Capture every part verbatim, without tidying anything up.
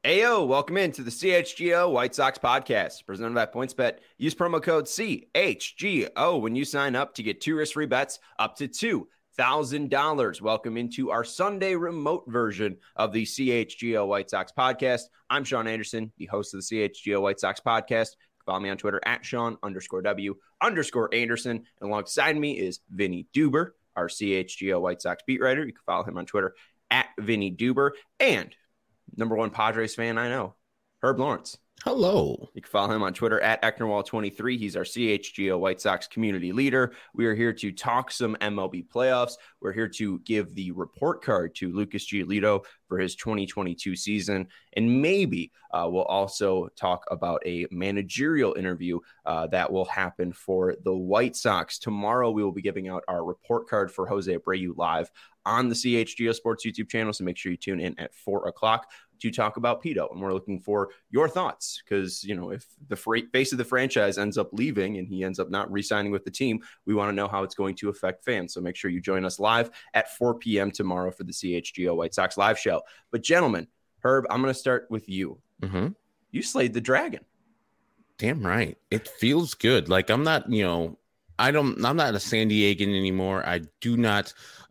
Ayo, welcome into the C H G O White Sox podcast, presented by PointsBet. Use promo code C H G O when you sign up to get two risk-free bets up to two thousand dollars. Welcome into our Sunday remote version of the C H G O White Sox podcast. I'm Sean Anderson, the host of the C H G O White Sox podcast. Follow me on Twitter at Sean underscore W underscore Anderson. And alongside me is Vinny Duber, our C H G O White Sox beat writer. You can follow him on Twitter at Vinny Duber. And number one Padres fan I know, Herb Lawrence. Hello. You can follow him on Twitter at Ecknerwall twenty-three. He's our C H G O White Sox community leader. We are here to talk some M L B playoffs. We're here to give the report card to Lucas Giolito for his twenty twenty-two season. And maybe uh, we'll also talk about a managerial interview uh, that will happen for the White Sox. Tomorrow, we will be giving out our report card for Jose Abreu live on the C H G O Sports YouTube channel. So make sure you tune in at four o'clock to talk about Pito. And we're looking for your thoughts because, you know, if the face of the franchise ends up leaving and he ends up not re-signing with the team, we want to know how it's going to affect fans. So make sure you join us live at four p.m. tomorrow for the C H G O White Sox live show. But gentlemen, Herb, I'm going to start with you. Mm-hmm. You slayed the dragon. Damn right. It feels good. Like I'm not, you know, I don't, I'm not a San Diegan anymore. I do not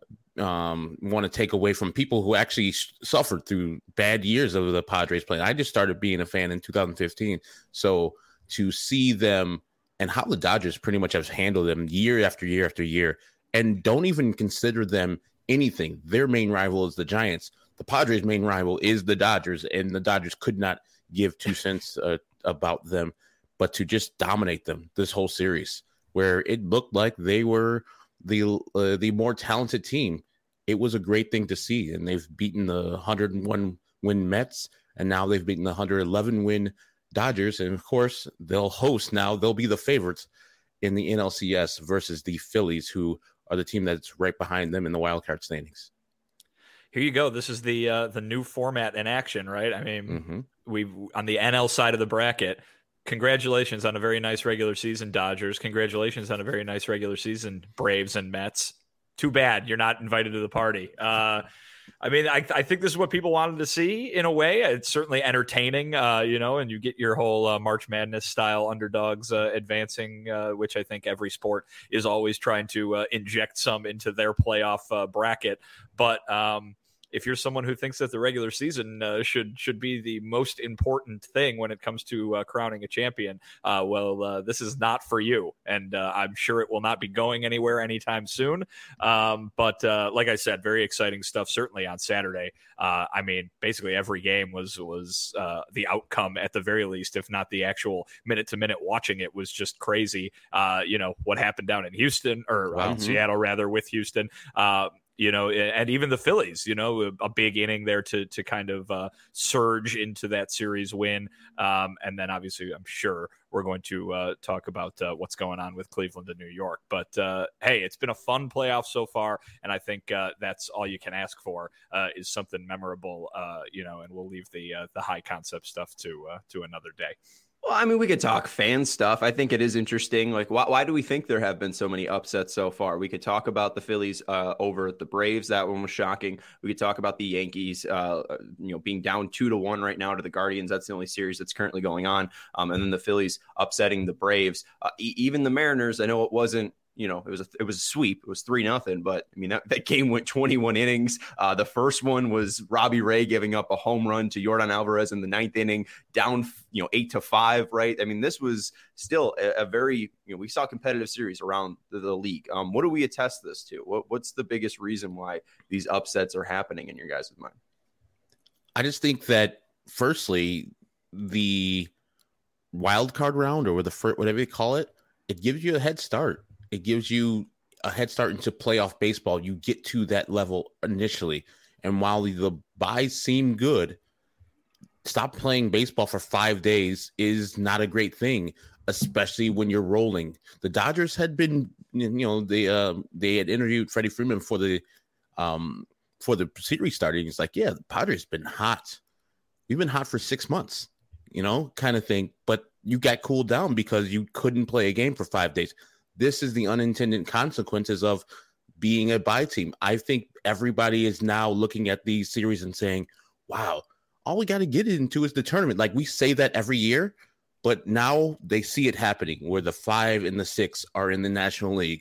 um, want to take away from people who actually sh- suffered through bad years of the Padres playing. I just started being a fan in two thousand fifteen. So to see them and how the Dodgers pretty much have handled them year after year after year and don't even consider them anything. Their main rival is the Giants. The Padres' main rival is the Dodgers, and the Dodgers could not give two cents uh, about them, but to just dominate them this whole series, where it looked like they were the uh, the more talented team. It was a great thing to see, and they've beaten the one hundred one win Mets, and now they've beaten the one hundred eleven win Dodgers, and of course they'll host now. They'll be the favorites in the N L C S versus the Phillies, who are the team that's right behind them in the wild card standings. Here you go. This is the uh, the new format in action, right? I mean, Mm-hmm. we've on the N L side of the bracket. Congratulations on a very nice regular season, Dodgers. Congratulations on a very nice regular season, Braves and Mets. Too bad you're not invited to the party. Uh, I mean, I, I think this is what people wanted to see in a way. It's certainly entertaining, uh, you know, and you get your whole uh, March Madness style underdogs uh, advancing, uh, which I think every sport is always trying to uh, inject some into their playoff uh, bracket. But um, if you're someone who thinks that the regular season uh, should should be the most important thing when it comes to uh, crowning a champion, uh, well, uh, this is not for you. And uh, I'm sure it will not be going anywhere anytime soon. Um, but uh, like I said, very exciting stuff, certainly on Saturday. Uh, I mean, basically every game was, was uh, the outcome at the very least, if not the actual minute-to-minute watching it was just crazy. Uh, you know, what happened down in Houston, or Wow. uh, Seattle, rather, with Houston. Uh, You know, and even the Phillies, you know, a big inning there to to kind of uh, surge into that series win. Um, and then obviously, I'm sure we're going to uh, talk about uh, what's going on with Cleveland and New York. But uh, hey, it's been a fun playoff so far. And I think uh, that's all you can ask for uh, is something memorable, uh, you know, and we'll leave the uh, the high concept stuff to uh, to another day. Well, I mean, we could talk fan stuff. I think it is interesting. Like, why, why do we think there have been so many upsets so far? We could talk about the Phillies uh, over the Braves. That one was shocking. We could talk about the Yankees, uh, you know, being down two to one right now to the Guardians. That's the only series that's currently going on. Um, and then the Phillies upsetting the Braves. Uh, e- even the Mariners, I know it wasn't, you know, it was a, it was a sweep. It was three nothing, but I mean, that, that game went twenty-one innings. Uh, the first one was Robbie Ray giving up a home run to Yordan Alvarez in the ninth inning, down, you know, eight to five, right? I mean, this was still a, a very, you know, we saw competitive series around the, the league. Um, what do we attest this to? What, what's the biggest reason why these upsets are happening in your guys' mind? I just think that, firstly, the wild card round, or the first, whatever you call it, it gives you a head start. It gives you a head start into playoff baseball. You get to that level initially. And while the buys seem good, stop playing baseball for five days is not a great thing, especially when you're rolling. The Dodgers had been, you know, they uh, they had interviewed Freddie Freeman for the um for the series starting. It's like, yeah, the Padres been hot. We've been hot for six months, you know, kind of thing. But you got cooled down because you couldn't play a game for five days. This is the unintended consequences of being a bye team. I think everybody is now looking at these series and saying, wow, all we got to get into is the tournament. Like we say that every year, but now they see it happening where the five and the six are in the National League.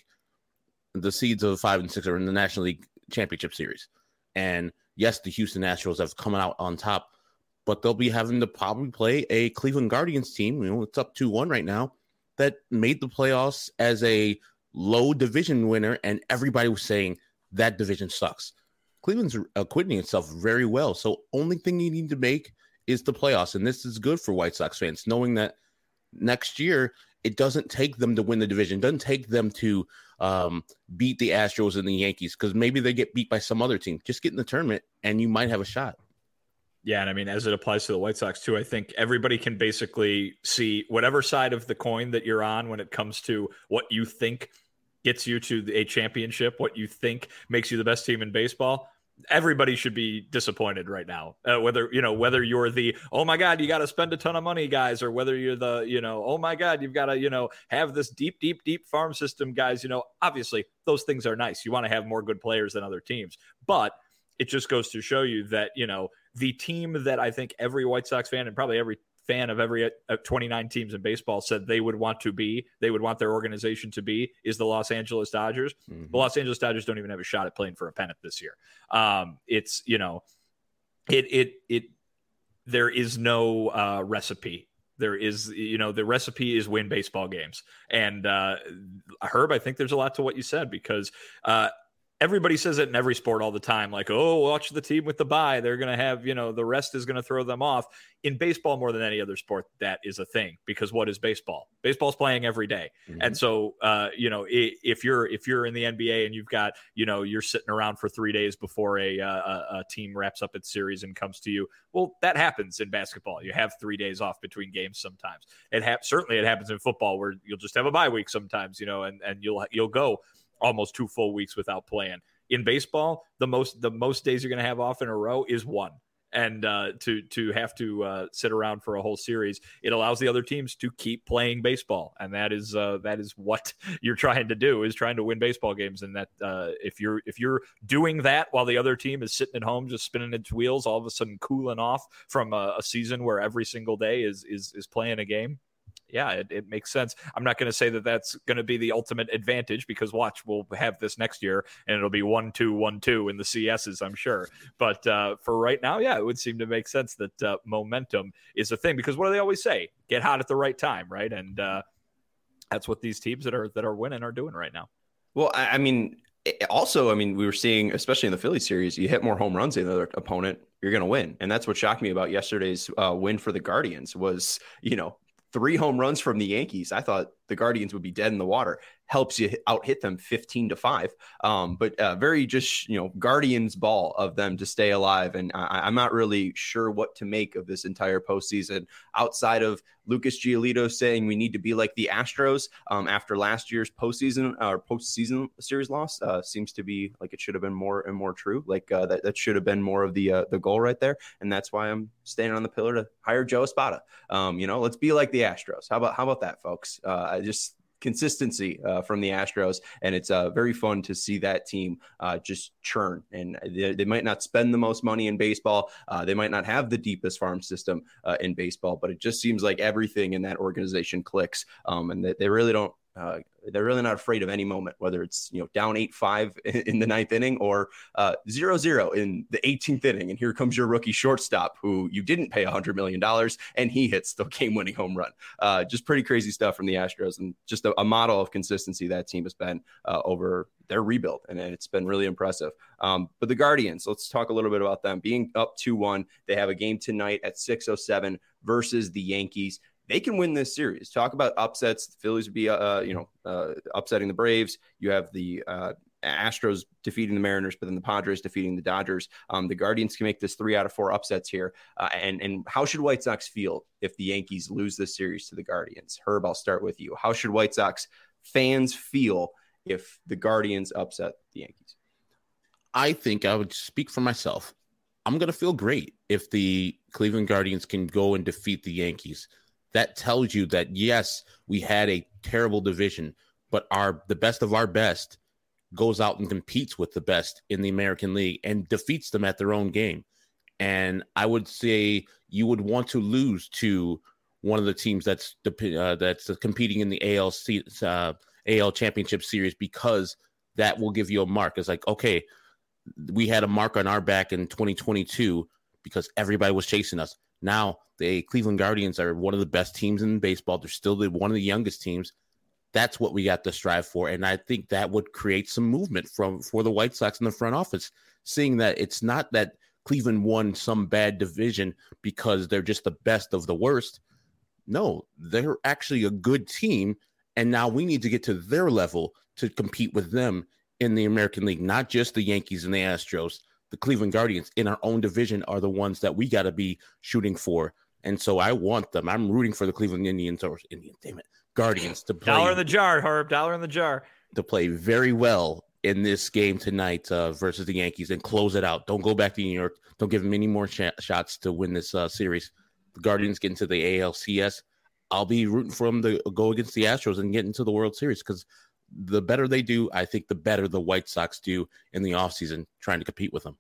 The seeds of the five and six are in the National League Championship Series. And yes, the Houston Astros have come out on top, but they'll be having to probably play a Cleveland Guardians team. You know, it's up two one right now, that made the playoffs as a low division winner. And everybody was saying that division sucks. Cleveland's acquitting itself very well. So only thing you need to make is the playoffs. And this is good for White Sox fans, knowing that next year, it doesn't take them to win the division. It doesn't take them to um, beat the Astros and the Yankees, because maybe they get beat by some other team. Just get in the tournament and you might have a shot. Yeah, and I mean, as it applies to the White Sox too, I think everybody can basically see whatever side of the coin that you're on when it comes to what you think gets you to a championship, what you think makes you the best team in baseball. Everybody should be disappointed right now, uh, whether, you know, whether you're the, oh my God, you got to spend a ton of money guys, or whether you're the, you know, oh my God, you've got to, you know, have this deep, deep, deep farm system guys. You know, obviously those things are nice. You want to have more good players than other teams, but it just goes to show you that, you know, the team that I think every White Sox fan and probably every fan of every uh, twenty-nine teams in baseball said they would want to be, they would want their organization to be, is the Los Angeles Dodgers. Mm-hmm. The Los Angeles Dodgers don't even have a shot at playing for a pennant this year. Um, it's, you know, it, it, it, there is no uh, recipe. There is, you know, the recipe is win baseball games. And uh, Herb, I think there's a lot to what you said, because uh, everybody says it in every sport all the time, like, oh, watch the team with the bye. They're going to have, you know, the rest is going to throw them off. In baseball, more than any other sport, that is a thing, because what is baseball? Baseball's playing every day. Mm-hmm. And so, uh, you know, if you're if you're in the N B A and you've got, you know, you're sitting around for three days before a, a, a team wraps up its series and comes to you, well, that happens in basketball. You have three days off between games sometimes. It ha- certainly it happens in football, where you'll just have a bye week sometimes, you know, and, and you'll you'll go almost two full weeks without playing. In baseball, the most the most days you're going to have off in a row is one. And uh, to to have to uh, sit around for a whole series, it allows the other teams to keep playing baseball, and that is uh, that is what you're trying to do, is trying to win baseball games. And that uh, if you're if you're doing that while the other team is sitting at home just spinning its wheels, all of a sudden cooling off from a, a season where every single day is is is playing a game. Yeah, it, it makes sense. I'm not going to say that that's going to be the ultimate advantage, because watch, we'll have this next year and it'll be one, two, one, two in the C S's, I'm sure. But uh, for right now, yeah, it would seem to make sense that uh, momentum is a thing, because what do they always say? Get hot at the right time, right? And uh, that's what these teams that are that are winning are doing right now. Well, I mean, also, I mean, we were seeing, especially in the Philly series, you hit more home runs than the other opponent, you're going to win. And that's what shocked me about yesterday's uh, win for the Guardians was, you know, three home runs from the Yankees. I thought the Guardians would be dead in the water. Helps you out hit them fifteen to five. Um, but uh, very just, you know, Guardians ball of them to stay alive. And I, I'm not really sure what to make of this entire postseason outside of Lucas Giolito saying we need to be like the Astros um, after last year's postseason or postseason series loss. Uh, seems to be like it should have been more and more true. Like uh, that, that should have been more of the uh, the goal right there. And that's why I'm standing on the pillar to hire Joe Espada. Um, you know, let's be like the Astros. How about how about that, folks? Uh, just consistency uh, from the Astros, and it's uh, very fun to see that team uh, just churn. And they, they might not spend the most money in baseball, uh, they might not have the deepest farm system uh, in baseball, but it just seems like everything in that organization clicks, um, and they, they really don't. Uh, they're really not afraid of any moment, whether it's, you know, down eight five in the ninth inning or uh, zero zero in the eighteenth inning. And here comes your rookie shortstop who you didn't pay one hundred million dollars, and he hits the game-winning home run. Uh, just pretty crazy stuff from the Astros, and just a, a model of consistency that team has been uh, over their rebuild, and, and it's been really impressive. Um, but the Guardians, let's talk a little bit about them. Being up two one, they have a game tonight at six oh seven versus the Yankees. They can win this series. Talk about upsets. The Phillies would be, uh, you know, uh, upsetting the Braves. You have the uh, Astros defeating the Mariners, but then the Padres defeating the Dodgers. Um, the Guardians can make this three out of four upsets here. Uh, and and how should White Sox feel if the Yankees lose this series to the Guardians? Herb, I'll start with you. How should White Sox fans feel if the Guardians upset the Yankees? I think I would speak for myself. I'm going to feel great if the Cleveland Guardians can go and defeat the Yankees. That tells you that, yes, we had a terrible division, but our the best of our best goes out and competes with the best in the American League and defeats them at their own game. And I would say you would want to lose to one of the teams that's uh, that's competing in the A L C, uh, A L Championship Series, because that will give you a mark. It's like, okay, we had a mark on our back in twenty twenty-two because everybody was chasing us. Now the Cleveland Guardians are one of the best teams in baseball. They're still the, one of the youngest teams. That's what we got to strive for. And I think that would create some movement from for the White Sox in the front office, seeing that it's not that Cleveland won some bad division because they're just the best of the worst. No, they're actually a good team, and now we need to get to their level to compete with them in the American League, not just the Yankees and the Astros. The Cleveland Guardians in our own division are the ones that we got to be shooting for. And so I want them. I'm rooting for the Cleveland Indians or Indians, damn it, Guardians to play. Dollar in the jar, Herb, dollar in the jar. To play very well in this game tonight uh, versus the Yankees and close it out. Don't go back to New York. Don't give them any more sh- shots to win this uh, series. The Guardians get into the A L C S. I'll be rooting for them to go against the Astros and get into the World Series, because the better they do, I think the better the White Sox do in the offseason trying to compete with them.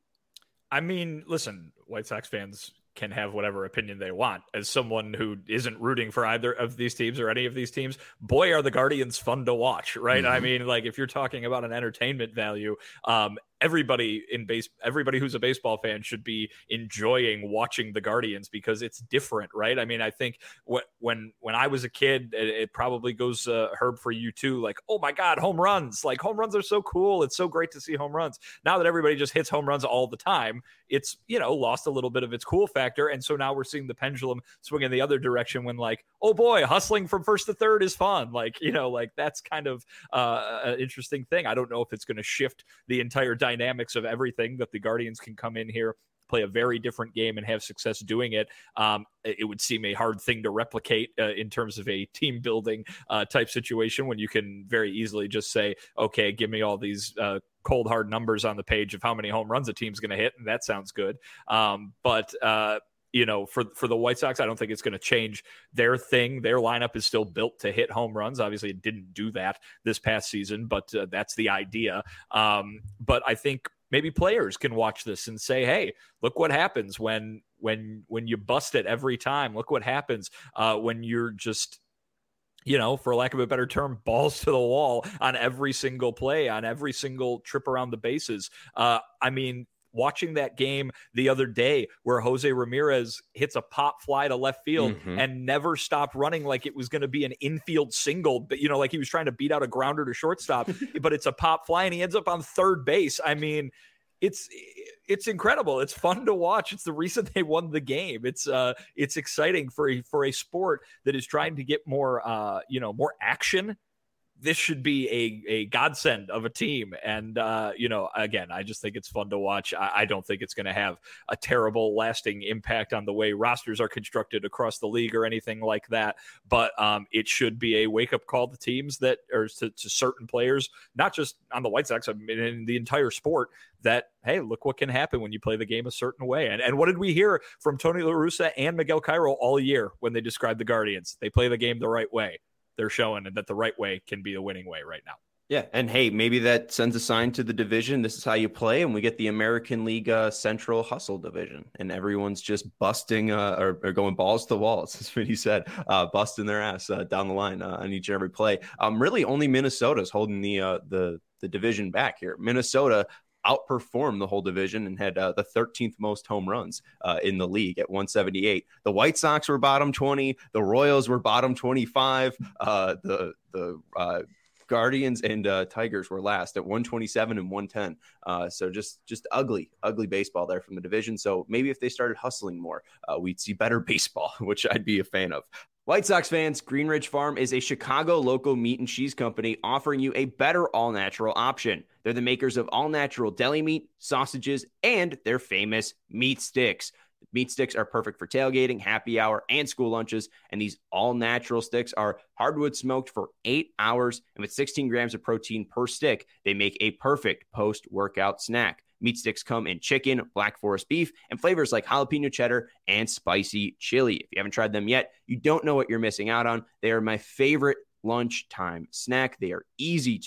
I mean, listen, White Sox fans can have whatever opinion they want. As someone who isn't rooting for either of these teams or any of these teams, boy, are the Guardians fun to watch, right? Mm-hmm. I mean, like, if you're talking about an entertainment value, um, everybody in base, everybody who's a baseball fan should be enjoying watching the Guardians because it's different, right? I mean, I think what, when when I was a kid, it, it probably goes uh, Herb for you too. Like, oh my God, home runs! Like, home runs are so cool. It's so great to see home runs. Now that everybody just hits home runs all the time, it's, you know, lost a little bit of its cool factor. And so now we're seeing the pendulum swing in the other direction when, like, oh boy, hustling from first to third is fun. Like, you know, like that's kind of uh, an interesting thing. I don't know if it's going to shift the entire dynamics of everything that the Guardians can come in here, play a very different game and have success doing it. Um, it would seem a hard thing to replicate uh, in terms of a team building uh, type situation when you can very easily just say, okay, give me all these uh, cold hard numbers on the page of how many home runs a team's going to hit. And that sounds good. Um, but, uh, you know, for, for the White Sox, I don't think it's going to change their thing. Their lineup is still built to hit home runs. Obviously, it didn't do that this past season, but uh, that's the idea. Um, but I think maybe players can watch this and say, hey, look what happens when when when you bust it every time. Look what happens uh, when you're just, you know, for lack of a better term, balls to the wall on every single play, on every single trip around the bases. Uh, I mean, watching that game the other day where Jose Ramirez hits a pop fly to left field mm-hmm. and never stopped running like it was going to be an infield single, but, you know, like he was trying to beat out a grounder to shortstop, but it's a pop fly and he ends up on third base. I mean, it's, it's incredible. It's fun to watch. It's the reason they won the game. It's uh, it's exciting for a, for a sport that is trying to get more, uh, you know, more action. This should be a, a godsend of a team. And, uh, you know, again, I just think it's fun to watch. I, I don't think it's going to have a terrible lasting impact on the way rosters are constructed across the league or anything like that. But um, it should be a wake up call to teams that, or to, to certain players, not just on the White Sox, I mean, in the entire sport, that, hey, look what can happen when you play the game a certain way. And, and what did we hear from Tony La Russa and Miguel Cairo all year when they described the Guardians? They play the game the right way. They're showing that the right way can be the winning way right now. Yeah, and hey, maybe that sends a sign to the division. This is how you play, and we get the American League uh, Central Hustle division, and everyone's just busting uh, or, or going balls to the walls. That's what he said, uh, busting their ass uh, down the line uh, on each and every play. Um, really, only Minnesota's holding the uh, the the division back here. Minnesota outperformed the whole division and had uh, the thirteenth most home runs uh, in the league at one seventy-eight. The White Sox were bottom twenty. The Royals were bottom twenty-five. Uh, the the uh, Guardians and uh, Tigers were last at one twenty-seven and one ten. Uh, so just just ugly, ugly baseball there from the division. So maybe if they started hustling more, uh, we'd see better baseball, which I'd be a fan of. White Sox fans, Green Ridge Farm is a Chicago local meat and cheese company offering you a better all-natural option. They're the makers of all-natural deli meat, sausages, and their famous meat sticks. Meat sticks are perfect for tailgating, happy hour, and school lunches, and these all-natural sticks are hardwood smoked for eight hours, and with sixteen grams of protein per stick, they make a perfect post-workout snack. Meat sticks come in chicken, black forest beef, and flavors like jalapeno cheddar and spicy chili. If you haven't tried them yet, you don't know what you're missing out on. They are my favorite lunchtime snack. They are easy to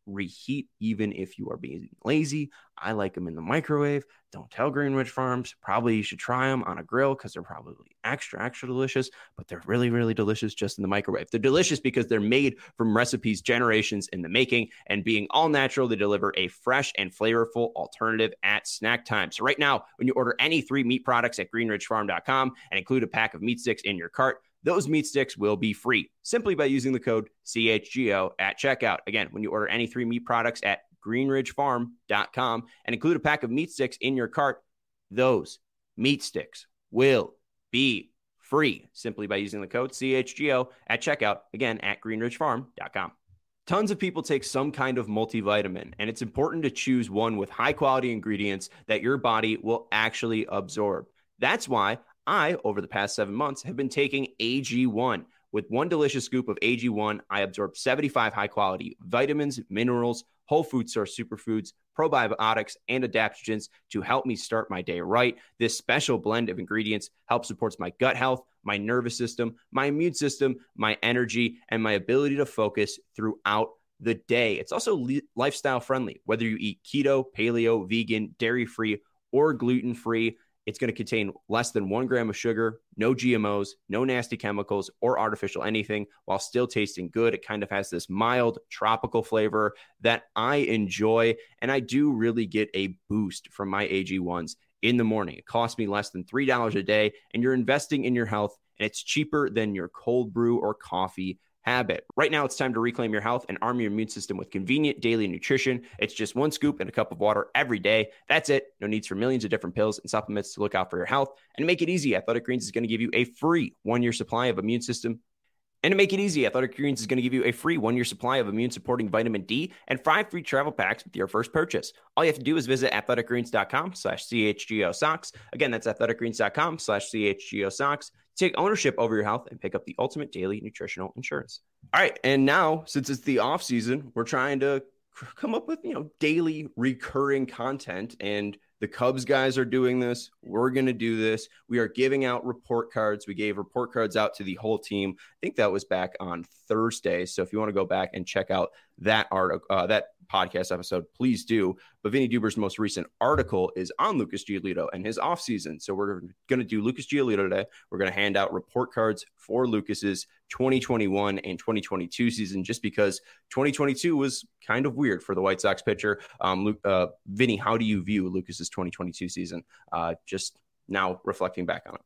reheat even if you are being lazy. I like them in the microwave. Don't tell Greenridge Farms. Probably you should try them on a grill because they're probably extra, extra delicious, but they're really, really delicious just in the microwave. They're delicious because they're made from recipes generations in the making, and being all natural, they deliver a fresh and flavorful alternative at snack time. So right now, when you order any three meat products at greenridge farm dot com and include a pack of meat sticks in your cart, those meat sticks will be free simply by using the code C H G O at checkout. Again, when you order any three meat products at greenridge farm dot com and include a pack of meat sticks in your cart, those meat sticks will be free simply by using the code C H G O at checkout. Again, at greenridge farm dot com. Tons of people take some kind of multivitamin, and it's important to choose one with high quality ingredients that your body will actually absorb. That's why I, over the past seven months, have been taking A G one. With one delicious scoop of A G one, I absorb seventy-five high-quality vitamins, minerals, whole food source superfoods, probiotics, and adaptogens to help me start my day right. This special blend of ingredients helps support my gut health, my nervous system, my immune system, my energy, and my ability to focus throughout the day. It's also li- lifestyle friendly. Whether you eat keto, paleo, vegan, dairy-free, or gluten-free, it's going to contain less than one gram of sugar, no G M Os, no nasty chemicals or artificial anything, while still tasting good. It kind of has this mild tropical flavor that I enjoy, and I do really get a boost from my A G ones in the morning. It costs me less than three dollars a day, and you're investing in your health, and it's cheaper than your cold brew or coffee habit. Right now, it's time to reclaim your health and arm your immune system with convenient daily nutrition. It's just one scoop and a cup of water every day. That's it. No needs for millions of different pills and supplements to look out for your health. And to make it easy, Athletic Greens is going to give you a free one-year supply of immune system. And to make it easy, Athletic Greens is going to give you a free one-year supply of immune-supporting vitamin D and five free travel packs with your first purchase. All you have to do is visit athletic greens dot com slash C H G O socks. Again, that's athletic greens dot com slash C H G O socks. Take ownership over your health and pick up the ultimate daily nutritional insurance. All right, and now, since it's the off season, we're trying to come up with, you know, daily recurring content, and the Cubs guys are doing this. We're going to do this. We are giving out report cards. We gave report cards out to the whole team. I think that was back on Thursday. So if you want to go back and check out that art, uh, that podcast episode, please do. But Vinny Duber's most recent article is on Lucas Giolito and his offseason. So we're going to do Lucas Giolito today. We're going to hand out report cards for Lucas's twenty twenty-one and twenty twenty-two season, just because twenty twenty-two was kind of weird for the White Sox pitcher. Um, Luke, uh, Vinny, how do you view Lucas's twenty twenty-two season? Uh, just now reflecting back on it.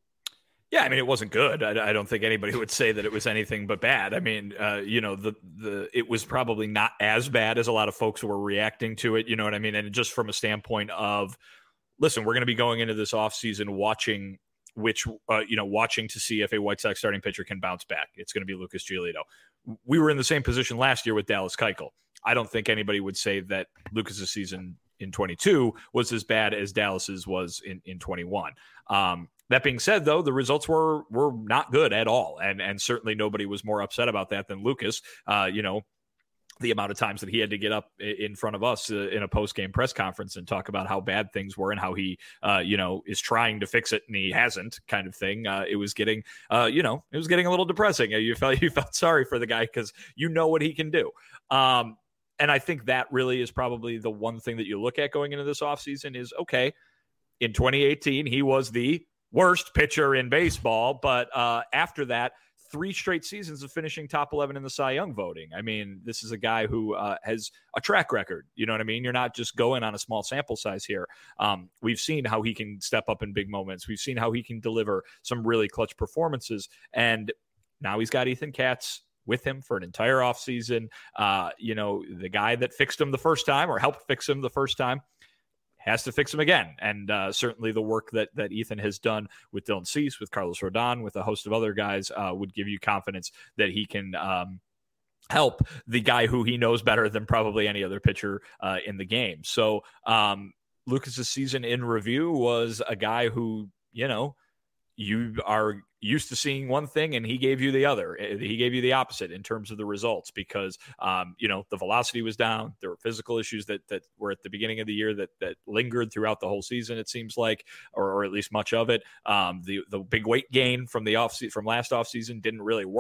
Yeah, I mean, it wasn't good. I, I don't think anybody would say that it was anything but bad. I mean, uh, you know, the the it was probably not as bad as a lot of folks were reacting to it. You know what I mean? And just from a standpoint of, listen, we're going to be going into this offseason watching which, uh, you know, watching to see if a White Sox starting pitcher can bounce back. It's going to be Lucas Giolito. We were in the same position last year with Dallas Keuchel. I don't think anybody would say that Lucas's season in twenty-two was as bad as Dallas's was in, in twenty-one. Um, That being said, though, the results were were not good at all, and and certainly nobody was more upset about that than Lucas. Uh, you know, the amount of times that he had to get up in front of us uh, in a post-game press conference and talk about how bad things were and how he, uh, you know, is trying to fix it and he hasn't, kind of thing. Uh, it was getting, uh, you know, it was getting a little depressing. You felt you felt sorry for the guy because you know what he can do. Um, and I think that really is probably the one thing that you look at going into this offseason is, okay, in twenty eighteen, he was the worst pitcher in baseball, but uh, after that, three straight seasons of finishing top eleven in the Cy Young voting. I mean, this is a guy who uh, has a track record. You know what I mean? You're not just going on a small sample size here. Um, we've seen how he can step up in big moments. We've seen how he can deliver some really clutch performances. And now he's got Ethan Katz with him for an entire offseason. Uh, you know, the guy that fixed him the first time or helped fix him the first time has to fix him again. And uh, certainly the work that that Ethan has done with Dylan Cease, with Carlos Rodon, with a host of other guys uh, would give you confidence that he can um, help the guy who he knows better than probably any other pitcher uh, in the game. So um, Lucas's season in review was a guy who, you know, you are used to seeing one thing and he gave you the other. He gave you the opposite in terms of the results because, um, you know, the velocity was down. There were physical issues that that were at the beginning of the year that that lingered throughout the whole season, it seems like, or, or at least much of it. Um, the the big weight gain from the off from last offseason didn't really work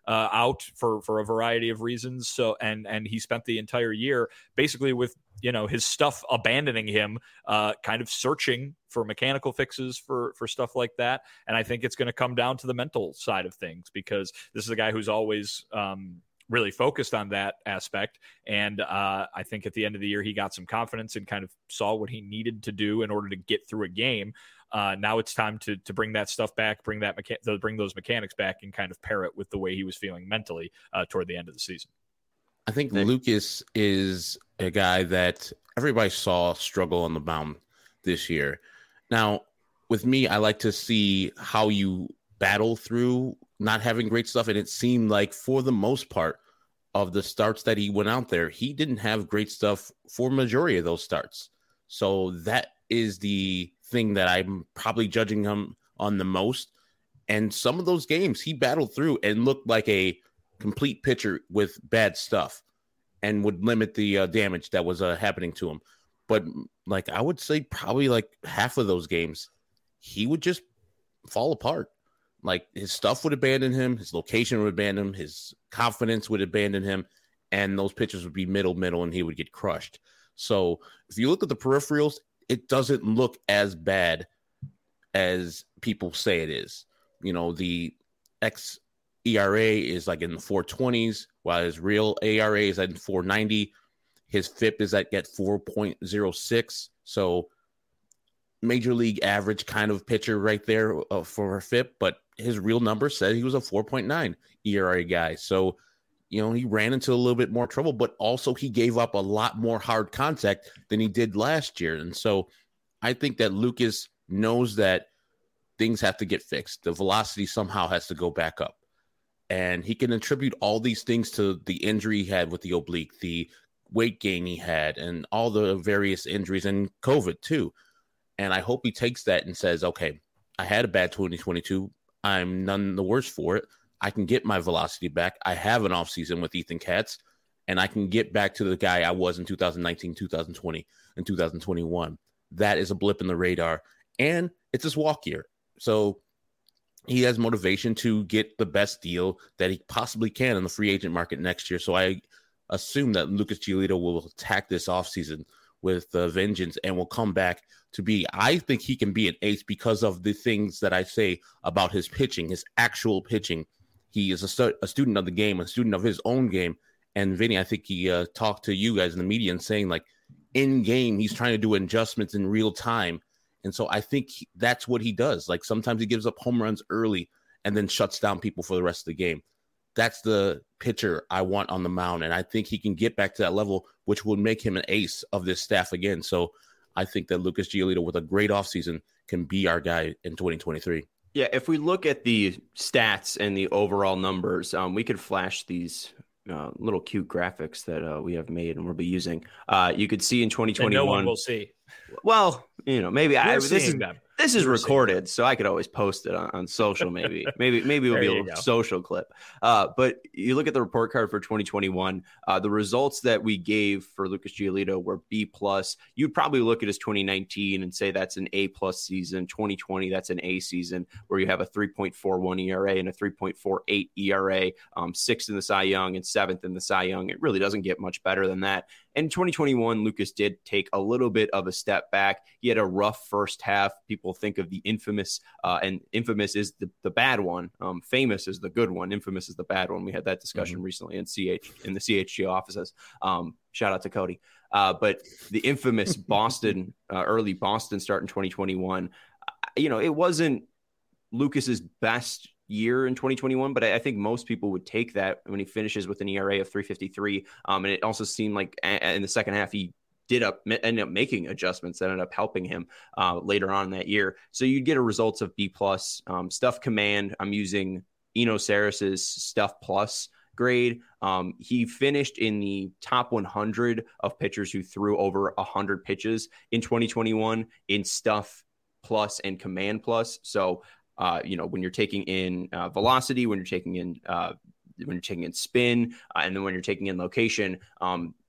uh, out for for a variety of reasons. So and and he spent the entire year basically with, you know, his stuff abandoning him, uh, kind of searching for mechanical fixes for for stuff like that. And I think it's going to come down to the mental side of things, because this is a guy who's always um, really focused on that aspect. And uh, I think at the end of the year, he got some confidence and kind of saw what he needed to do in order to get through a game. Uh, now it's time to to bring that stuff back, bring that mecha- bring those mechanics back, and kind of pair it with the way he was feeling mentally uh, toward the end of the season. I think Nick. Lucas is a guy that everybody saw struggle on the mound this year. Now, with me, I like to see how you battle through not having great stuff. And it seemed like for the most part of the starts that he went out there, he didn't have great stuff for majority of those starts. So that is the thing that I'm probably judging him on the most. And some of those games he battled through and looked like a complete pitcher with bad stuff and would limit the uh, damage that was uh, happening to him. But like, I would say probably like half of those games, he would just fall apart. Like his stuff would abandon him. His location would abandon him. His confidence would abandon him. And those pitches would be middle, middle, and he would get crushed. So if you look at the peripherals, it doesn't look as bad as people say it is. You know, the X E R A is like in the four twenties, while his real A R A is at four ninety. His F I P is at get four point oh six. So major league average kind of pitcher right there uh, for F I P, but his real number said he was a four point nine E R A guy. So, you know, he ran into a little bit more trouble, but also he gave up a lot more hard contact than he did last year. And so I think that Lucas knows that things have to get fixed. The velocity somehow has to go back up. And he can attribute all these things to the injury he had with the oblique, the weight gain he had, and all the various injuries, and COVID too. And I hope he takes that and says, okay, I had a bad twenty twenty-two. I'm none the worse for it. I can get my velocity back. I have an offseason with Ethan Katz, and I can get back to the guy I was in two thousand nineteen, two thousand twenty, and two thousand twenty-one. That is a blip in the radar, and it's his walk year. So he has motivation to get the best deal that he possibly can in the free agent market next year. So I assume that Lucas Giolito will attack this offseason with uh, vengeance and will come back to be, I think he can be an ace because of the things that I say about his pitching, his actual pitching. He is a, stu- a student of the game, a student of his own game. And Vinny, I think he uh, talked to you guys in the media and saying like in game, he's trying to do adjustments in real time. And so I think he, that's what he does. Like sometimes he gives up home runs early and then shuts down people for the rest of the game. That's the pitcher I want on the mound. And I think he can get back to that level, which would make him an ace of this staff again. So I think that Lucas Giolito with a great offseason can be our guy in twenty twenty-three. Yeah, if we look at the stats and the overall numbers, um, we could flash these uh, little cute graphics that uh, we have made and we'll be using. Uh, you could see in twenty twenty-one. And no one will see. Well, you know, maybe We're I this is them. this is recorded, so I could always post it on, on social. Maybe, maybe, maybe it'll be a little social clip. Uh, but you look at the report card for twenty twenty-one. Uh, the results that we gave for Lucas Giolito were B plus. You'd probably look at his twenty nineteen and say that's an A plus season. twenty twenty, that's an A season where you have a three point four one E R A and a three point four eight E R A, um, sixth in the Cy Young and seventh in the Cy Young. It really doesn't get much better than that. And in twenty twenty-one, Lucas did take a little bit of a step back. He had a rough first half. People think of the infamous, uh, and infamous is the, the bad one. Um, famous is the good one. Infamous is the bad one. We had that discussion mm-hmm. recently in C H in the C H G O offices. Um, shout out to Cody. Uh, but the infamous Boston, uh, early Boston start in twenty twenty-one, you know, it wasn't Lucas's best year in twenty twenty-one, but I, I think most people would take that when he finishes with an E R A of three fifty-three. Um, and it also seemed like a, in the second half, he did up ended up making adjustments that ended up helping him uh, later on in that year. So you'd get a results of B plus. Um, stuff command, I'm using Eno Sarris's stuff plus grade. Um, he finished in the top one hundred of pitchers who threw over one hundred pitches in twenty twenty-one in stuff plus and command plus. So uh, you know, when you're taking in uh, velocity, when you're taking in uh, when you're taking in spin, uh, and then when you're taking in location, um,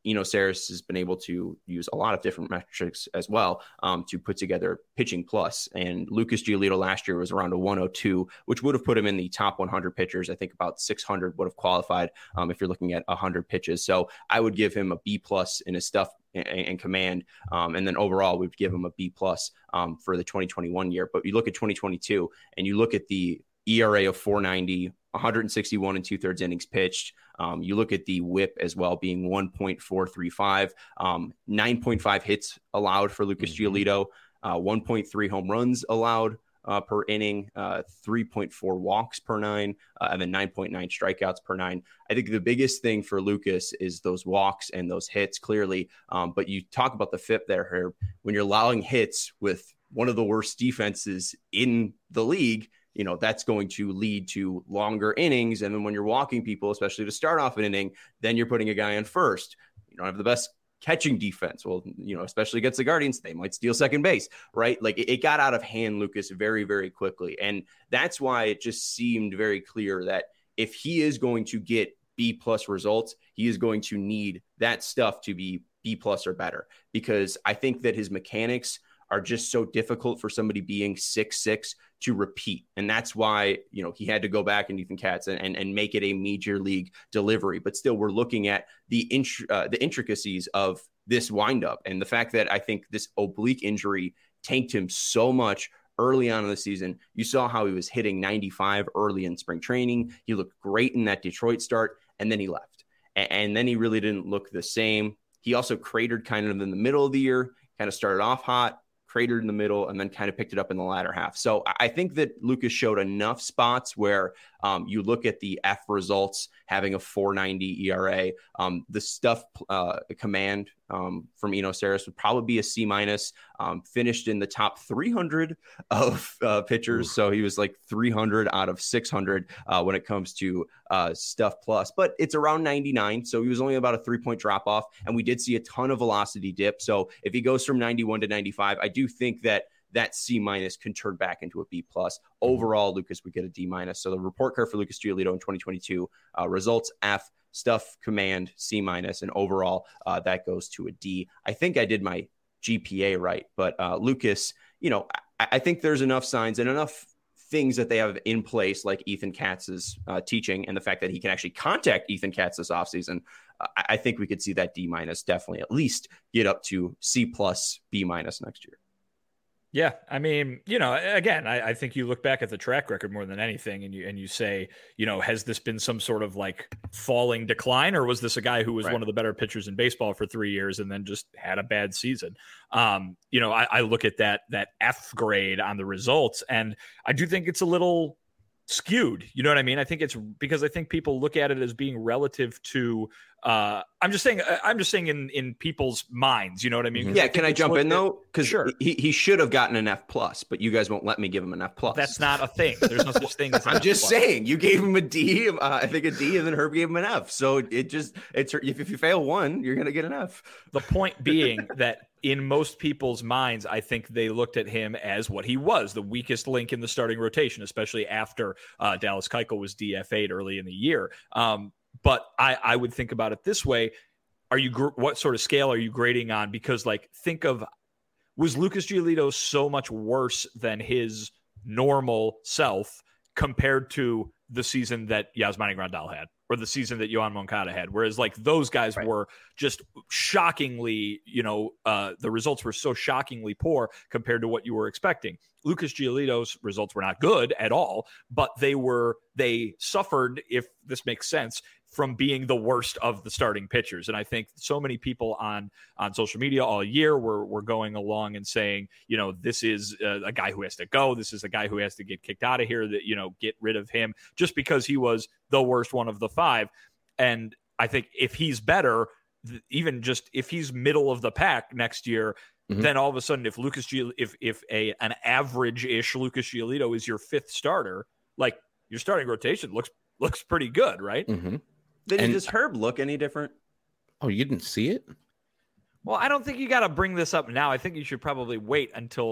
Eno Sarris has been able to use a lot of different metrics as well um, to put together pitching plus. And Lucas Giolito last year was around a one oh two, which would have put him in the top one hundred pitchers. I think about six hundred would have qualified um, if you're looking at one hundred pitches. So I would give him a B plus in his stuff and, and command. Um, and then overall, we'd give him a B plus um, for the twenty twenty-one year. But you look at twenty twenty-two and you look at the E R A of four ninety, one sixty-one and two thirds innings pitched. Um, you look at the whip as well being one point four three five, um, nine point five hits allowed for Lucas mm-hmm. Giolito, uh, one point three home runs allowed uh, per inning, uh, three point four walks per nine, uh, and then nine point nine strikeouts per nine. I think the biggest thing for Lucas is those walks and those hits clearly. Um, but you talk about the F I P there, Herb, when you're allowing hits with one of the worst defenses in the league, you know, that's going to lead to longer innings. And then when you're walking people, especially to start off an inning, then you're putting a guy on first. You don't have the best catching defense. Well, you know, especially against the Guardians, they might steal second base, right? Like it, it got out of hand, Lucas, very, very quickly. And that's why it just seemed very clear that if he is going to get B plus results, he is going to need that stuff to be B plus or better, because I think that his mechanics are just so difficult for somebody being six six to repeat. And that's why, you know, he had to go back and Ethan Katz and, and, and make it a major league delivery. But still, we're looking at the int- uh, the intricacies of this windup and the fact that I think this oblique injury tanked him so much early on in the season. You saw how he was hitting ninety-five early in spring training. He looked great in that Detroit start, and then he left. And, and then he really didn't look the same. He also cratered kind of in the middle of the year, kind of started off hot, cratered in the middle, and then kind of picked it up in the latter half. So I think that Lucas showed enough spots where um, you look at the F results, having a four ninety E R A. Um, the stuff uh, command um, from Eno Sarris would probably be a C minus. Um, finished in the top three hundred of uh, pitchers, Ooh. So he was like three hundred out of six hundred uh, when it comes to uh, stuff plus. But it's around ninety-nine, so he was only about a three point drop off, and we did see a ton of velocity dip. So if he goes from ninety-one to ninety-five, I do think that that C minus can turn back into a B plus. Overall, Lucas would get a D minus. So the report card for Lucas Giolito in twenty twenty-two uh, results F, stuff command C minus, and overall uh, that goes to a D. I think I did my G P A right, but uh, Lucas, you know, I, I think there's enough signs and enough things that they have in place, like Ethan Katz's uh, teaching and the fact that he can actually contact Ethan Katz this offseason. Uh, I think we could see that D minus definitely at least get up to C plus, B minus next year. Yeah, I mean, you know, again, I, I think you look back at the track record more than anything, and you and you say, you know, has this been some sort of like falling decline, or was this a guy who was right. one of the better pitchers in baseball for three years and then just had a bad season? Um, you know, I, I look at that that F grade on the results, and I do think it's a little skewed. You know what I mean? I think it's because I think people look at it as being relative to. Uh, I'm just saying. I'm just saying in, in people's minds. You know what I mean? Yeah. I can I jump in though? Because sure. he, he should have gotten an F plus, but you guys won't let me give him an F plus. That's not a thing. There's no such thing. As an I'm F just plus. saying. You gave him a D. Uh, I think a D, and then Herb gave him an F. So it just it's if, if you fail one, you're gonna get an F. The point being that in most people's minds, I think they looked at him as what he was, the weakest link in the starting rotation, especially after uh, Dallas Keuchel was D F A'd early in the year. Um, but I, I would think about it this way. Are you, gr- what sort of scale are you grading on? Because like, think of, was Lucas Giolito so much worse than his normal self compared to the season that Yasmani Grandal had, or the season that Yohan Moncada had? Whereas like those guys right. were just shockingly, you know, uh, the results were so shockingly poor compared to what you were expecting. Lucas Giolito's results were not good at all, but they were, they suffered, if this makes sense, from being the worst of the starting pitchers. And I think so many people on, on social media all year were, were going along and saying, you know, this is a, a guy who has to go. This is a guy who has to get kicked out of here, that, you know, get rid of him just because he was the worst one of the five. And I think if he's better, even just if he's middle of the pack next year, mm-hmm. then all of a sudden, if Lucas, Giol- if, if a, an average ish Lucas Giolito is your fifth starter, like your starting rotation looks, looks pretty good. Right. Mm-hmm. Then and, does Herb look any different? Oh, you didn't see it? Well, I don't think you got to bring this up now. I think you should probably wait until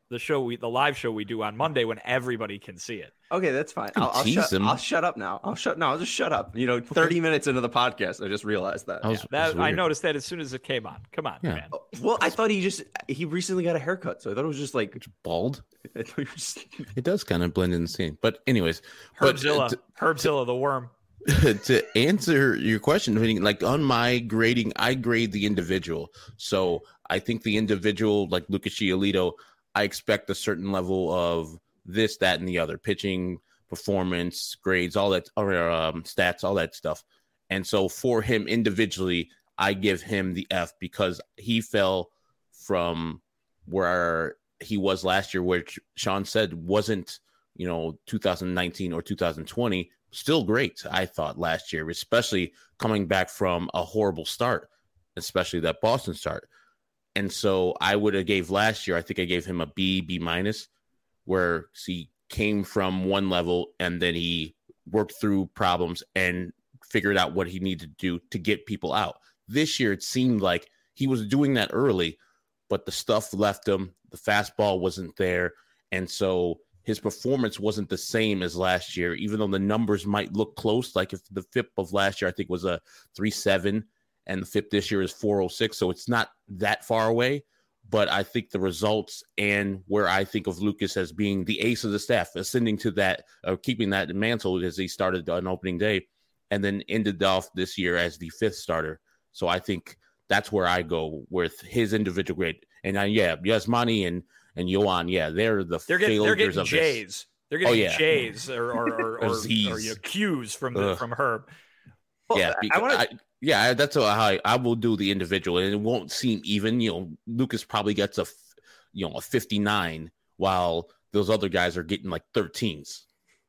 the show we the live show we do on Monday when everybody can see it. Okay, that's fine. I'll, I'll, shut, I'll shut up now. I'll shut. No, I'll just shut up. You know, thirty okay. minutes into the podcast, I just realized that. that, was, yeah. that I noticed that as soon as it came on. Come on, yeah. man. Well, I thought he just he recently got a haircut, so I thought it was just like bald. It, was... it does kind of blend in the scene, but anyways, Herbzilla, but, uh, Herbzilla, the worm. To answer your question, I mean, like on my grading, I grade the individual. So I think the individual, like Lucas Giolito, I expect a certain level of this, that, and the other pitching, performance, grades, all that, or um, stats, all that stuff. And so for him individually, I give him the F because he fell from where he was last year, which Sean said wasn't, you know, two thousand nineteen or two thousand twenty. Still great, I thought, last year, especially coming back from a horrible start, especially that Boston start. And so I would have gave last year, I think I gave him a B, B minus, where he came from one level and then he worked through problems and figured out what he needed to do to get people out. This year, it seemed like he was doing that early, but the stuff left him. The fastball wasn't there. And so his performance wasn't the same as last year, even though the numbers might look close. Like if the F I P of last year, I think was a three seven and the F I P this year is four oh six. So it's not that far away, but I think the results and where I think of Lucas as being the ace of the staff, ascending to that, or uh, keeping that mantle as he started on opening day and then ended off this year as the fifth starter. So I think that's where I go with his individual grade. And uh, yeah, Yasmani and And Yoan, yeah, they're the they're getting, they're getting of J's. This. They're getting oh, yeah. J's or or or, or, or, or you know, Q's from the, from Herb. Well, yeah, because, I wanna... I, yeah, that's how I, I will do the individual, and it won't seem even. You know, Lucas probably gets a you know a fifty-nine, while those other guys are getting like thirteens.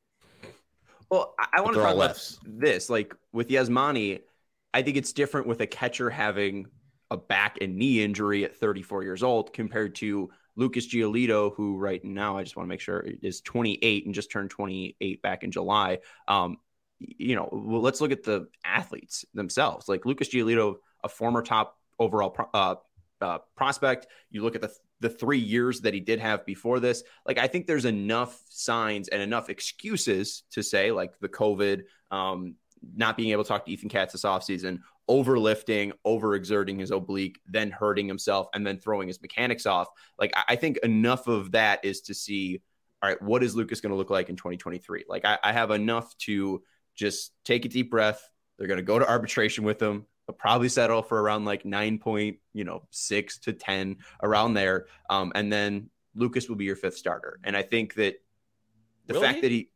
Well, I, I want to talk about Fs. this. Like with Yasmani, I think it's different with a catcher having a back and knee injury at thirty-four years old compared to Lucas Giolito, who right now, I just want to make sure, is twenty-eight and just turned twenty-eight back in July. Um, you know, well, let's look at the athletes themselves. Like Lucas Giolito, a former top overall pro- uh, uh, prospect. You look at the the three years that he did have before this. Like, I think there's enough signs and enough excuses to say, like the COVID, um, not being able to talk to Ethan Katz this offseason, overlifting, overexerting his oblique, then hurting himself, and then throwing his mechanics off. Like, I think enough of that is to see, all right, what is Lucas going to look like in twenty twenty-three? Like, I, I have enough to just take a deep breath. They're going to go to arbitration with him. They'll probably settle for around like nine point, you know, six to ten around there. Um, and then Lucas will be your fifth starter. And I think that the Will fact he? that he,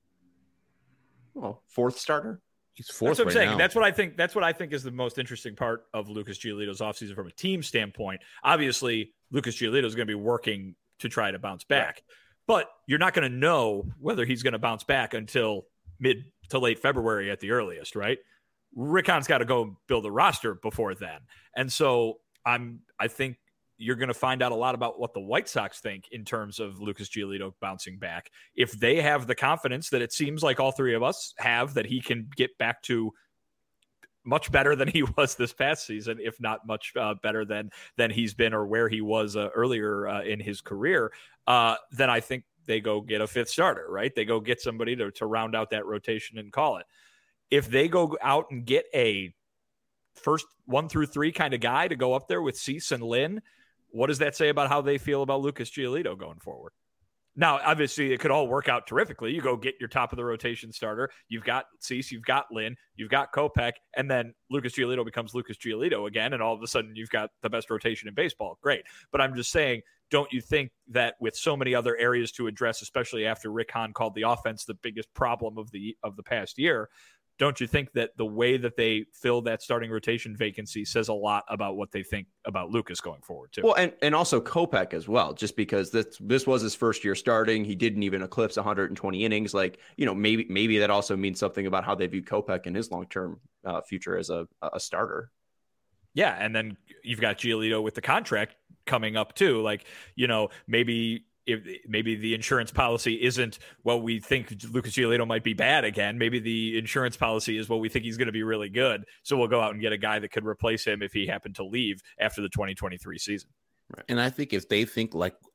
well, fourth starter. He's fourth That's what I'm right saying. now. That's what I think. That's what I think is the most interesting part of Lucas Giolito's offseason from a team standpoint. Obviously, Lucas Giolito is going to be working to try to bounce back, right. But you're not going to know whether he's going to bounce back until mid to late February at the earliest, right? Rick Hahn's got to go build a roster before then, and so I'm. I think you're going to find out a lot about what the White Sox think in terms of Lucas Giolito bouncing back. If they have the confidence that it seems like all three of us have, that he can get back to much better than he was this past season, if not much uh, better than than he's been or where he was uh, earlier uh, in his career, uh, then I think they go get a fifth starter, right? They go get somebody to, to round out that rotation and call it. If they go out and get a first one through three kind of guy to go up there with Cease and Lynn, what does that say about how they feel about Lucas Giolito going forward? Now, obviously, it could all work out terrifically. You go get your top of the rotation starter. You've got Cease, you've got Lynn, you've got Kopech, and then Lucas Giolito becomes Lucas Giolito again, and all of a sudden you've got the best rotation in baseball. Great. But I'm just saying, don't you think that with so many other areas to address, especially after Rick Hahn called the offense the biggest problem of the of the past year, don't you think that the way that they fill that starting rotation vacancy says a lot about what they think about Lucas going forward too? Well, and, and also Kopech as well, just because this this was his first year starting. He didn't even eclipse one hundred twenty innings. Like, you know, maybe maybe that also means something about how they view Kopech and his long-term uh, future as a, a starter. Yeah, and then you've got Giolito with the contract coming up too. Like, you know, maybe if maybe the insurance policy isn't, well, we think Lucas Giolito might be bad again. Maybe the insurance policy is, well, we think he's going to be really good. So we'll go out and get a guy that could replace him if he happened to leave after the twenty twenty-three season. Right. And I think if they think like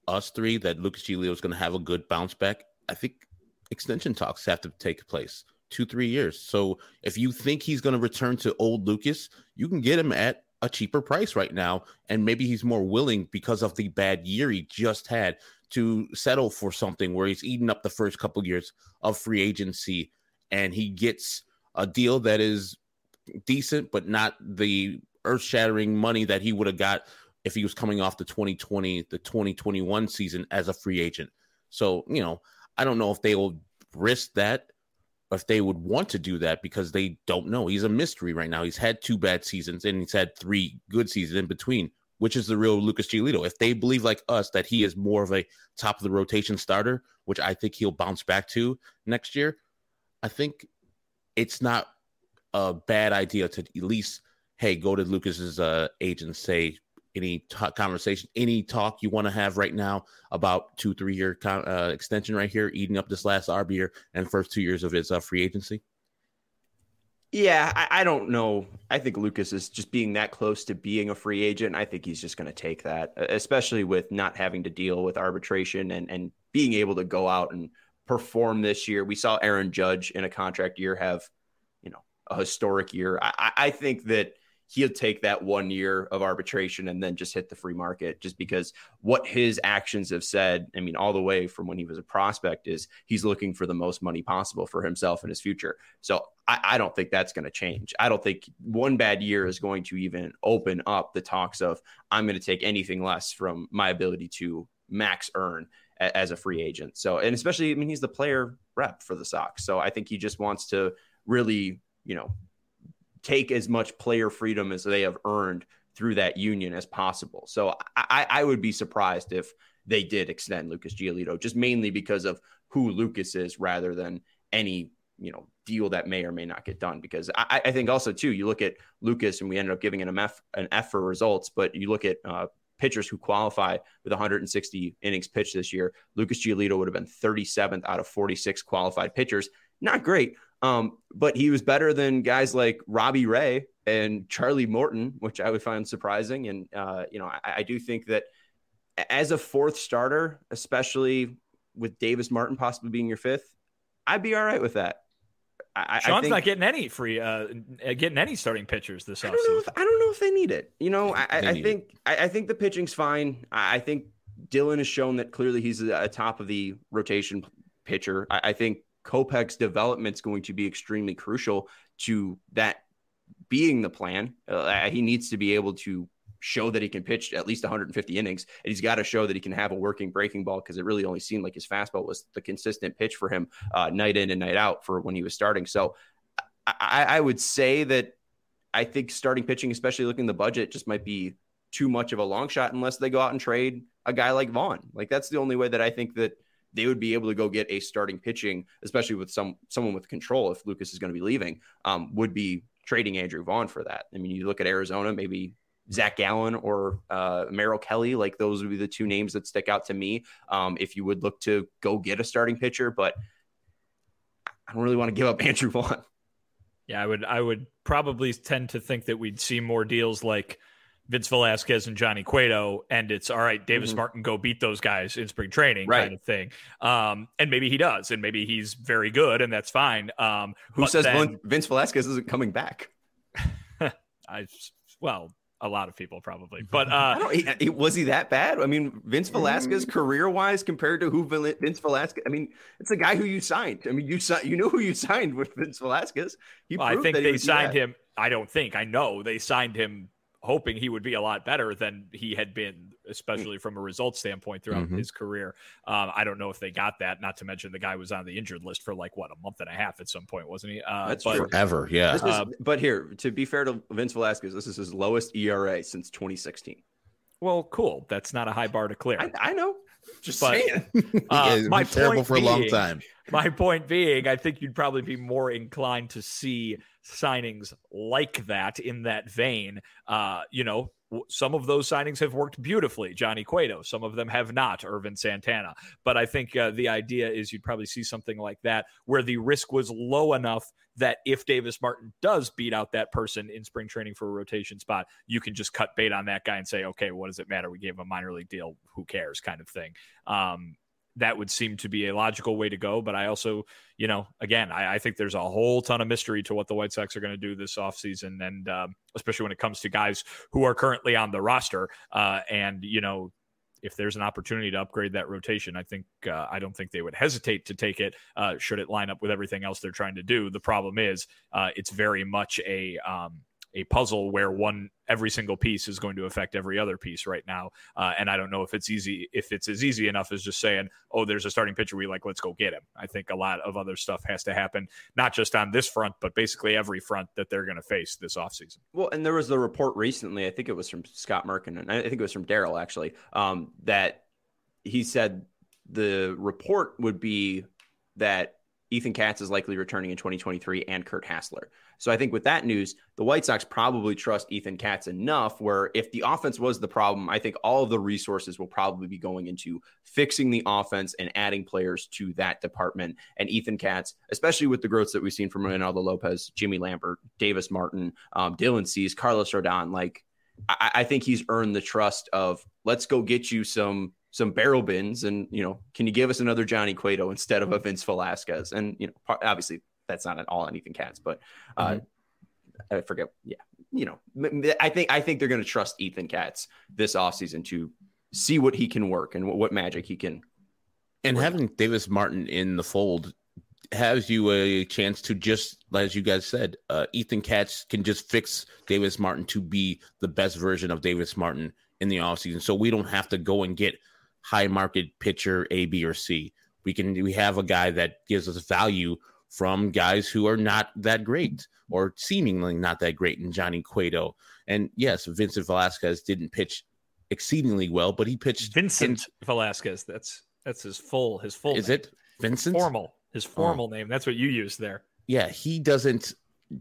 us three that Lucas Giolito is going to have a good bounce back, I think extension talks have to take place two, three years. So if you think he's going to return to old Lucas, you can get him at a cheaper price right now. And maybe he's more willing because of the bad year he just had to settle for something where he's eaten up the first couple of years of free agency and he gets a deal that is decent, but not the earth shattering money that he would have got if he was coming off the twenty twenty, the twenty twenty-one season as a free agent. So, you know, I don't know if they will risk that, or if they would want to do that because they don't know. He's a mystery right now. He's had two bad seasons and he's had three good seasons in between, which is the real Lucas Giolito. If they believe like us that he is more of a top of the rotation starter, which I think he'll bounce back to next year, I think it's not a bad idea to at least, hey, go to Lucas's uh, agent, say, any t- conversation, any talk you want to have right now about two, three year con- uh, extension right here, eating up this last R B year and first two years of his uh, free agency? Yeah, I, I don't know. I think Lucas is just being that close to being a free agent. I think he's just going to take that, especially with not having to deal with arbitration and, and being able to go out and perform this year. We saw Aaron Judge in a contract year have, you know, a historic year. I, I think that he'll take that one year of arbitration and then just hit the free market, just because what his actions have said, I mean, all the way from when he was a prospect, is he's looking for the most money possible for himself and his future. So I, I don't think that's going to change. I don't think one bad year is going to even open up the talks of, I'm going to take anything less from my ability to max earn a, as a free agent. So, and especially, I mean, he's the player rep for the Sox. So I think he just wants to really, you know, take as much player freedom as they have earned through that union as possible. So I, I would be surprised if they did extend Lucas Giolito, just mainly because of who Lucas is rather than any, you know, deal that may or may not get done. Because I, I think also too, you look at Lucas and we ended up giving an F, an F for results, but you look at uh, pitchers who qualify with one hundred sixty innings pitched this year. Lucas Giolito would have been thirty-seventh out of forty-six qualified pitchers. Not great. Um, but he was better than guys like Robbie Ray and Charlie Morton, which I would find surprising. And, uh, you know, I, I do think that as a fourth starter, especially with Davis Martin possibly being your fifth, I'd be all right with that. I, Sean's I think, not getting any free, uh, getting any starting pitchers this offseason. I don't know if I don't know if they need it. You know, I, I think I, I think the pitching's fine. I, I think Dylan has shown that clearly he's a, a top of the rotation pitcher. I, I think Kopech's development is going to be extremely crucial to that being the plan. Uh, he needs to be able to show that he can pitch at least one hundred fifty innings, and he's got to show that he can have a working breaking ball, because it really only seemed like his fastball was the consistent pitch for him uh, night in and night out for when he was starting. So I, I would say that I think starting pitching, especially looking at the budget, just might be too much of a long shot unless they go out and trade a guy like Vaughn. Like, that's the only way that I think that they would be able to go get a starting pitching, especially with some someone with control, if Lucas is going to be leaving, um, would be trading Andrew Vaughn for that. I mean, you look at Arizona, maybe Zach Gallen or uh, Merrill Kelly, like those would be the two names that stick out to me. Um, if you would look to go get a starting pitcher, but I don't really want to give up Andrew Vaughn. Yeah, I would, I would probably tend to think that we'd see more deals like Vince Velasquez and Johnny Cueto, and it's all right, Davis mm-hmm. Martin, go beat those guys in spring training, right, kind of thing. Um, and maybe he does, and maybe he's very good, and that's fine. Um, Who says then, Vince Velasquez isn't coming back? I well, a lot of people probably, but uh, I don't, he, was he that bad? I mean, Vince Velasquez career wise compared to who Vince Velasquez, I mean, it's a guy who you signed. I mean, you you know who you signed with Vince Velasquez. He well, I think they signed him. I don't think I know they signed him hoping he would be a lot better than he had been, especially from a results standpoint throughout mm-hmm. his career. Um, I don't know if they got that, not to mention the guy was on the injured list for like, what, a month and a half at some point, wasn't he? Uh, That's but, forever, yeah. This was, but here, to be fair to Vince Velasquez, this is his lowest E R A since twenty sixteen. Well, cool. That's not a high bar to clear. I, I know. Just but, saying. Uh, yeah, my terrible for being, a long time. My point being, I think you'd probably be more inclined to see signings like that in that vein. Uh, you know, some of those signings have worked beautifully. Johnny Cueto, some of them have not. Irvin Santana. But I think uh, the idea is you'd probably see something like that where the risk was low enough that if Davis Martin does beat out that person in spring training for a rotation spot, you can just cut bait on that guy and say, okay, what does it matter? We gave him a minor league deal. Who cares, kind of thing. Um, that would seem to be a logical way to go. But I also, you know, again, I, I think there's a whole ton of mystery to what the White Sox are going to do this offseason. And um, especially when it comes to guys who are currently on the roster. Uh, and, you know, if there's an opportunity to upgrade that rotation, I think uh, I don't think they would hesitate to take it uh, should it line up with everything else they're trying to do. The problem is uh, it's very much a um, a puzzle where one every single piece is going to affect every other piece right now. Uh, and I don't know if it's easy, if it's as easy enough as just saying, oh, there's a starting pitcher we like, let's go get him. I think a lot of other stuff has to happen, not just on this front, but basically every front that they're going to face this offseason. Well, and there was the report recently, I think it was from Scott Merkin, and I think it was from Daryl actually, um, that he said the report would be that Ethan Katz is likely returning in twenty twenty-three and Kurt Hassler. So I think with that news, the White Sox probably trust Ethan Katz enough where if the offense was the problem, I think all of the resources will probably be going into fixing the offense and adding players to that department. And Ethan Katz, especially with the growths that we've seen from Reynaldo Lopez, Jimmy Lambert, Davis Martin, um, Dylan Cease, Carlos Rodon, like I, I think he's earned the trust of let's go get you some some barrel bins and, you know, can you give us another Johnny Cueto instead of a Vince Velasquez? And, you know, obviously that's not at all on Ethan Katz, but uh, mm-hmm. I forget. Yeah. You know, I think, I think they're going to trust Ethan Katz this offseason to see what he can work and what, what magic he can. And work. Having Davis Martin in the fold has you a chance to just, as you guys said, uh, Ethan Katz can just fix Davis Martin to be the best version of Davis Martin in the offseason. So we don't have to go and get high market pitcher A, B, or C. We can we have a guy that gives us value from guys who are not that great or seemingly not that great in Johnny Cueto. And yes, Vincent Velasquez didn't pitch exceedingly well, but he pitched Vincent in, Velasquez. That's that's his full his full is name. it Vincent formal his formal oh. name. That's what you used there. Yeah, he doesn't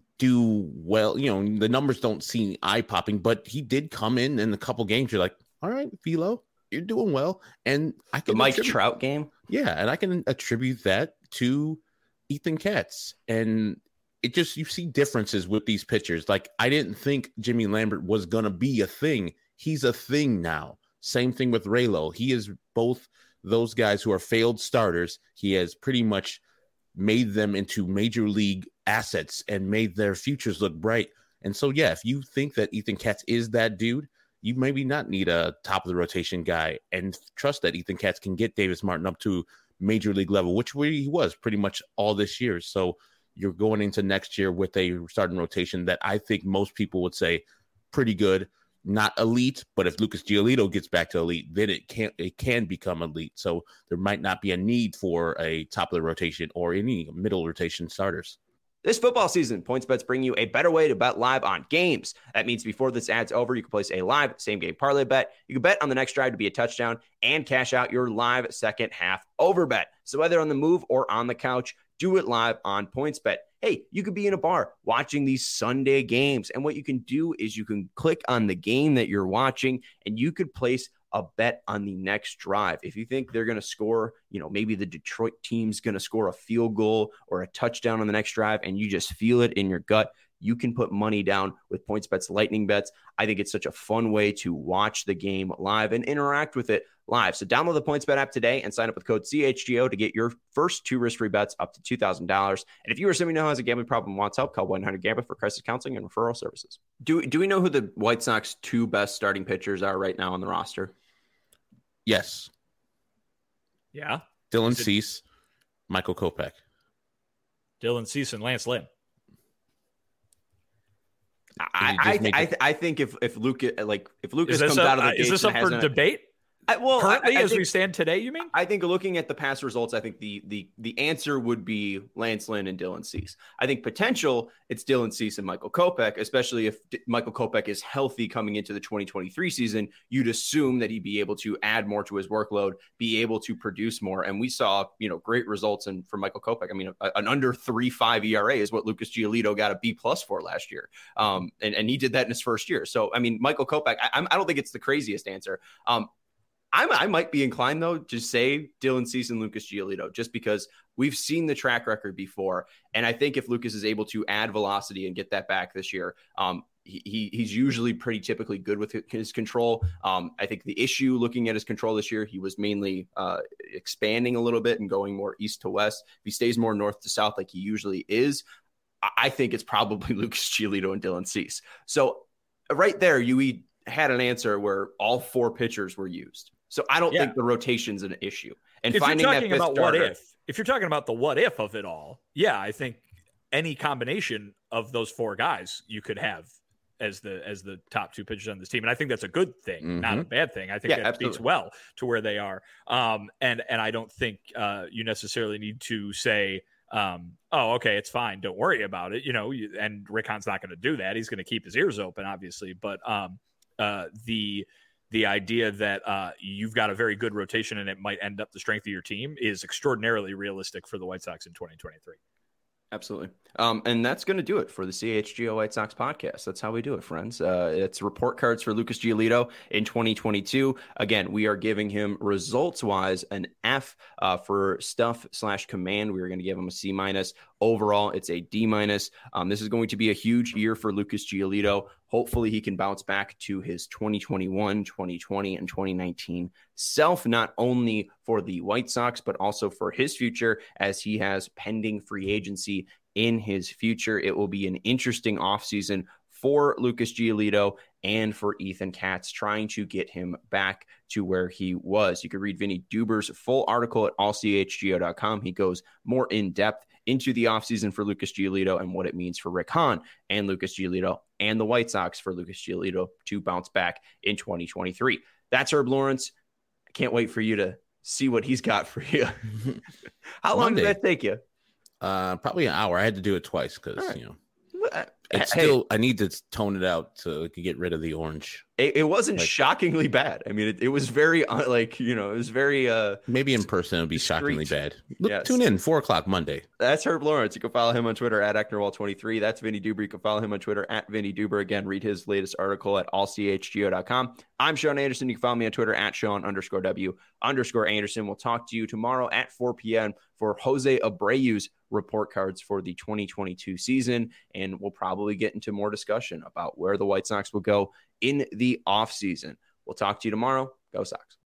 do well. You know, the numbers don't seem eye popping, but he did come in in a couple games. You're like, all right, Velo, you're doing well. And I can the Mike attribute, Trout game. Yeah. And I can attribute that to Ethan Katz. And it just, you see differences with these pitchers. Like I didn't think Jimmy Lambert was going to be a thing. He's a thing now. Same thing with Raylo. He is both those guys who are failed starters. He has pretty much made them into major league assets and made their futures look bright. And so, yeah, if you think that Ethan Katz is that dude, you maybe not need a top of the rotation guy and trust that Ethan Katz can get Davis Martin up to major league level, which he was pretty much all this year. So you're going into next year with a starting rotation that I think most people would say pretty good, not elite, but if Lucas Giolito gets back to elite, then it can it can become elite. So there might not be a need for a top of the rotation or any middle rotation starters. This football season, PointsBet's bring you a better way to bet live on games. That means before this ad's over, you can place a live same-game parlay bet. You can bet on the next drive to be a touchdown and cash out your live second half over bet. So whether on the move or on the couch, do it live on PointsBet. Hey, you could be in a bar watching these Sunday games, and what you can do is you can click on the game that you're watching, and you could place a bet on the next drive. If you think they're going to score, you know, maybe the Detroit team's going to score a field goal or a touchdown on the next drive, and you just feel it in your gut, you can put money down with PointsBet's Lightning Bets. I think it's such a fun way to watch the game live and interact with it live. So download the PointsBet app today and sign up with code C H G O to get your first two risk-free bets up to two thousand dollars. And if you or somebody who has a gambling problem and wants help, call one eight hundred gambler for crisis counseling and referral services. Do, do we know who the White Sox two best starting pitchers are right now on the roster? Yes. Yeah. Dylan it- Cease, Michael Kopech. Dylan Cease and Lance Lynn. I I, I, th- I think if if Lucas like if Lucas comes a, out of the uh, is this up for a, debate? I, well, currently, I, I as think, we stand today, you mean? I think looking at the past results, I think the the the answer would be Lance Lynn and Dylan Cease. I think potential, it's Dylan Cease and Michael Kopech, especially if D- Michael Kopech is healthy coming into the twenty twenty-three season. You'd assume that he'd be able to add more to his workload, be able to produce more. And we saw, you know, great results in for Michael Kopech. I mean, a, an under three five E R A is what Lucas Giolito got a B plus for last year, um, and and he did that in his first year. So I mean, Michael Kopech, I, I don't think it's the craziest answer. Um, I'm, I might be inclined, though, to say Dylan Cease and Lucas Giolito, just because we've seen the track record before. And I think if Lucas is able to add velocity and get that back this year, um, he, he's usually pretty typically good with his control. Um, I think the issue looking at his control this year, he was mainly uh, expanding a little bit and going more east to west. If he stays more north to south like he usually is, I think it's probably Lucas Giolito and Dylan Cease. So right there, you had an answer where all four pitchers were used. So I don't yeah. think the rotation's an issue. And if finding you're talking that about starter, what if, if you're talking about the what if of it all, yeah, I think any combination of those four guys you could have as the as the top two pitchers on this team, and I think that's a good thing, mm-hmm. not a bad thing. I think yeah, that absolutely. speaks well to where they are. Um, and and I don't think uh, you necessarily need to say, um, oh, okay, it's fine, don't worry about it. You know, and Rick Hahn's not going to do that. He's going to keep his ears open, obviously, but um, uh, the. The idea that uh, you've got a very good rotation and it might end up the strength of your team is extraordinarily realistic for the White Sox in twenty twenty-three. Absolutely. Um, and that's going to do it for the C H G O White Sox podcast. That's how we do it, friends. Uh, it's report cards for Lucas Giolito in twenty twenty-two. Again, we are giving him results-wise an F uh, for stuff slash command. We are going to give him a C minus. Overall, it's a D minus. Um, this is going to be a huge year for Lucas Giolito. Hopefully he can bounce back to his twenty twenty-one, twenty twenty, and twenty nineteen self, not only for the White Sox, but also for his future as he has pending free agency in his future. It will be an interesting offseason for Lucas Giolito and for Ethan Katz, trying to get him back to where he was. You can read Vinny Duber's full article at all c h g o dot com. He goes more in depth into the offseason for Lucas Giolito and what it means for Rick Hahn and Lucas Giolito and the White Sox for Lucas Giolito to bounce back in twenty twenty-three. That's Herb Lawrence. I can't wait for you to see what he's got for you. How long Monday. did that take you? Uh, probably an hour. I had to do it twice because, right. you know, it's hey, still, I need to tone it out to get rid of the orange. It, it wasn't like, shockingly bad. I mean, it, it was very, uh, like, you know, it was very. Uh, Maybe in person it would be discreet. shockingly bad. Look, yes. Tune in, four o'clock Monday. That's Herb Lawrence. You can follow him on Twitter at Ecknerwall twenty-three. That's Vinny Duber. You can follow him on Twitter at Vinny Duber. Again, read his latest article at all c h g o dot com. I'm Sean Anderson. You can follow me on Twitter at Sean underscore W underscore Anderson. We'll talk to you tomorrow at four p.m. for Jose Abreu's report cards for the twenty twenty-two season. And we'll probably get into more discussion about where the White Sox will go in the offseason. We'll talk to you tomorrow. Go Sox.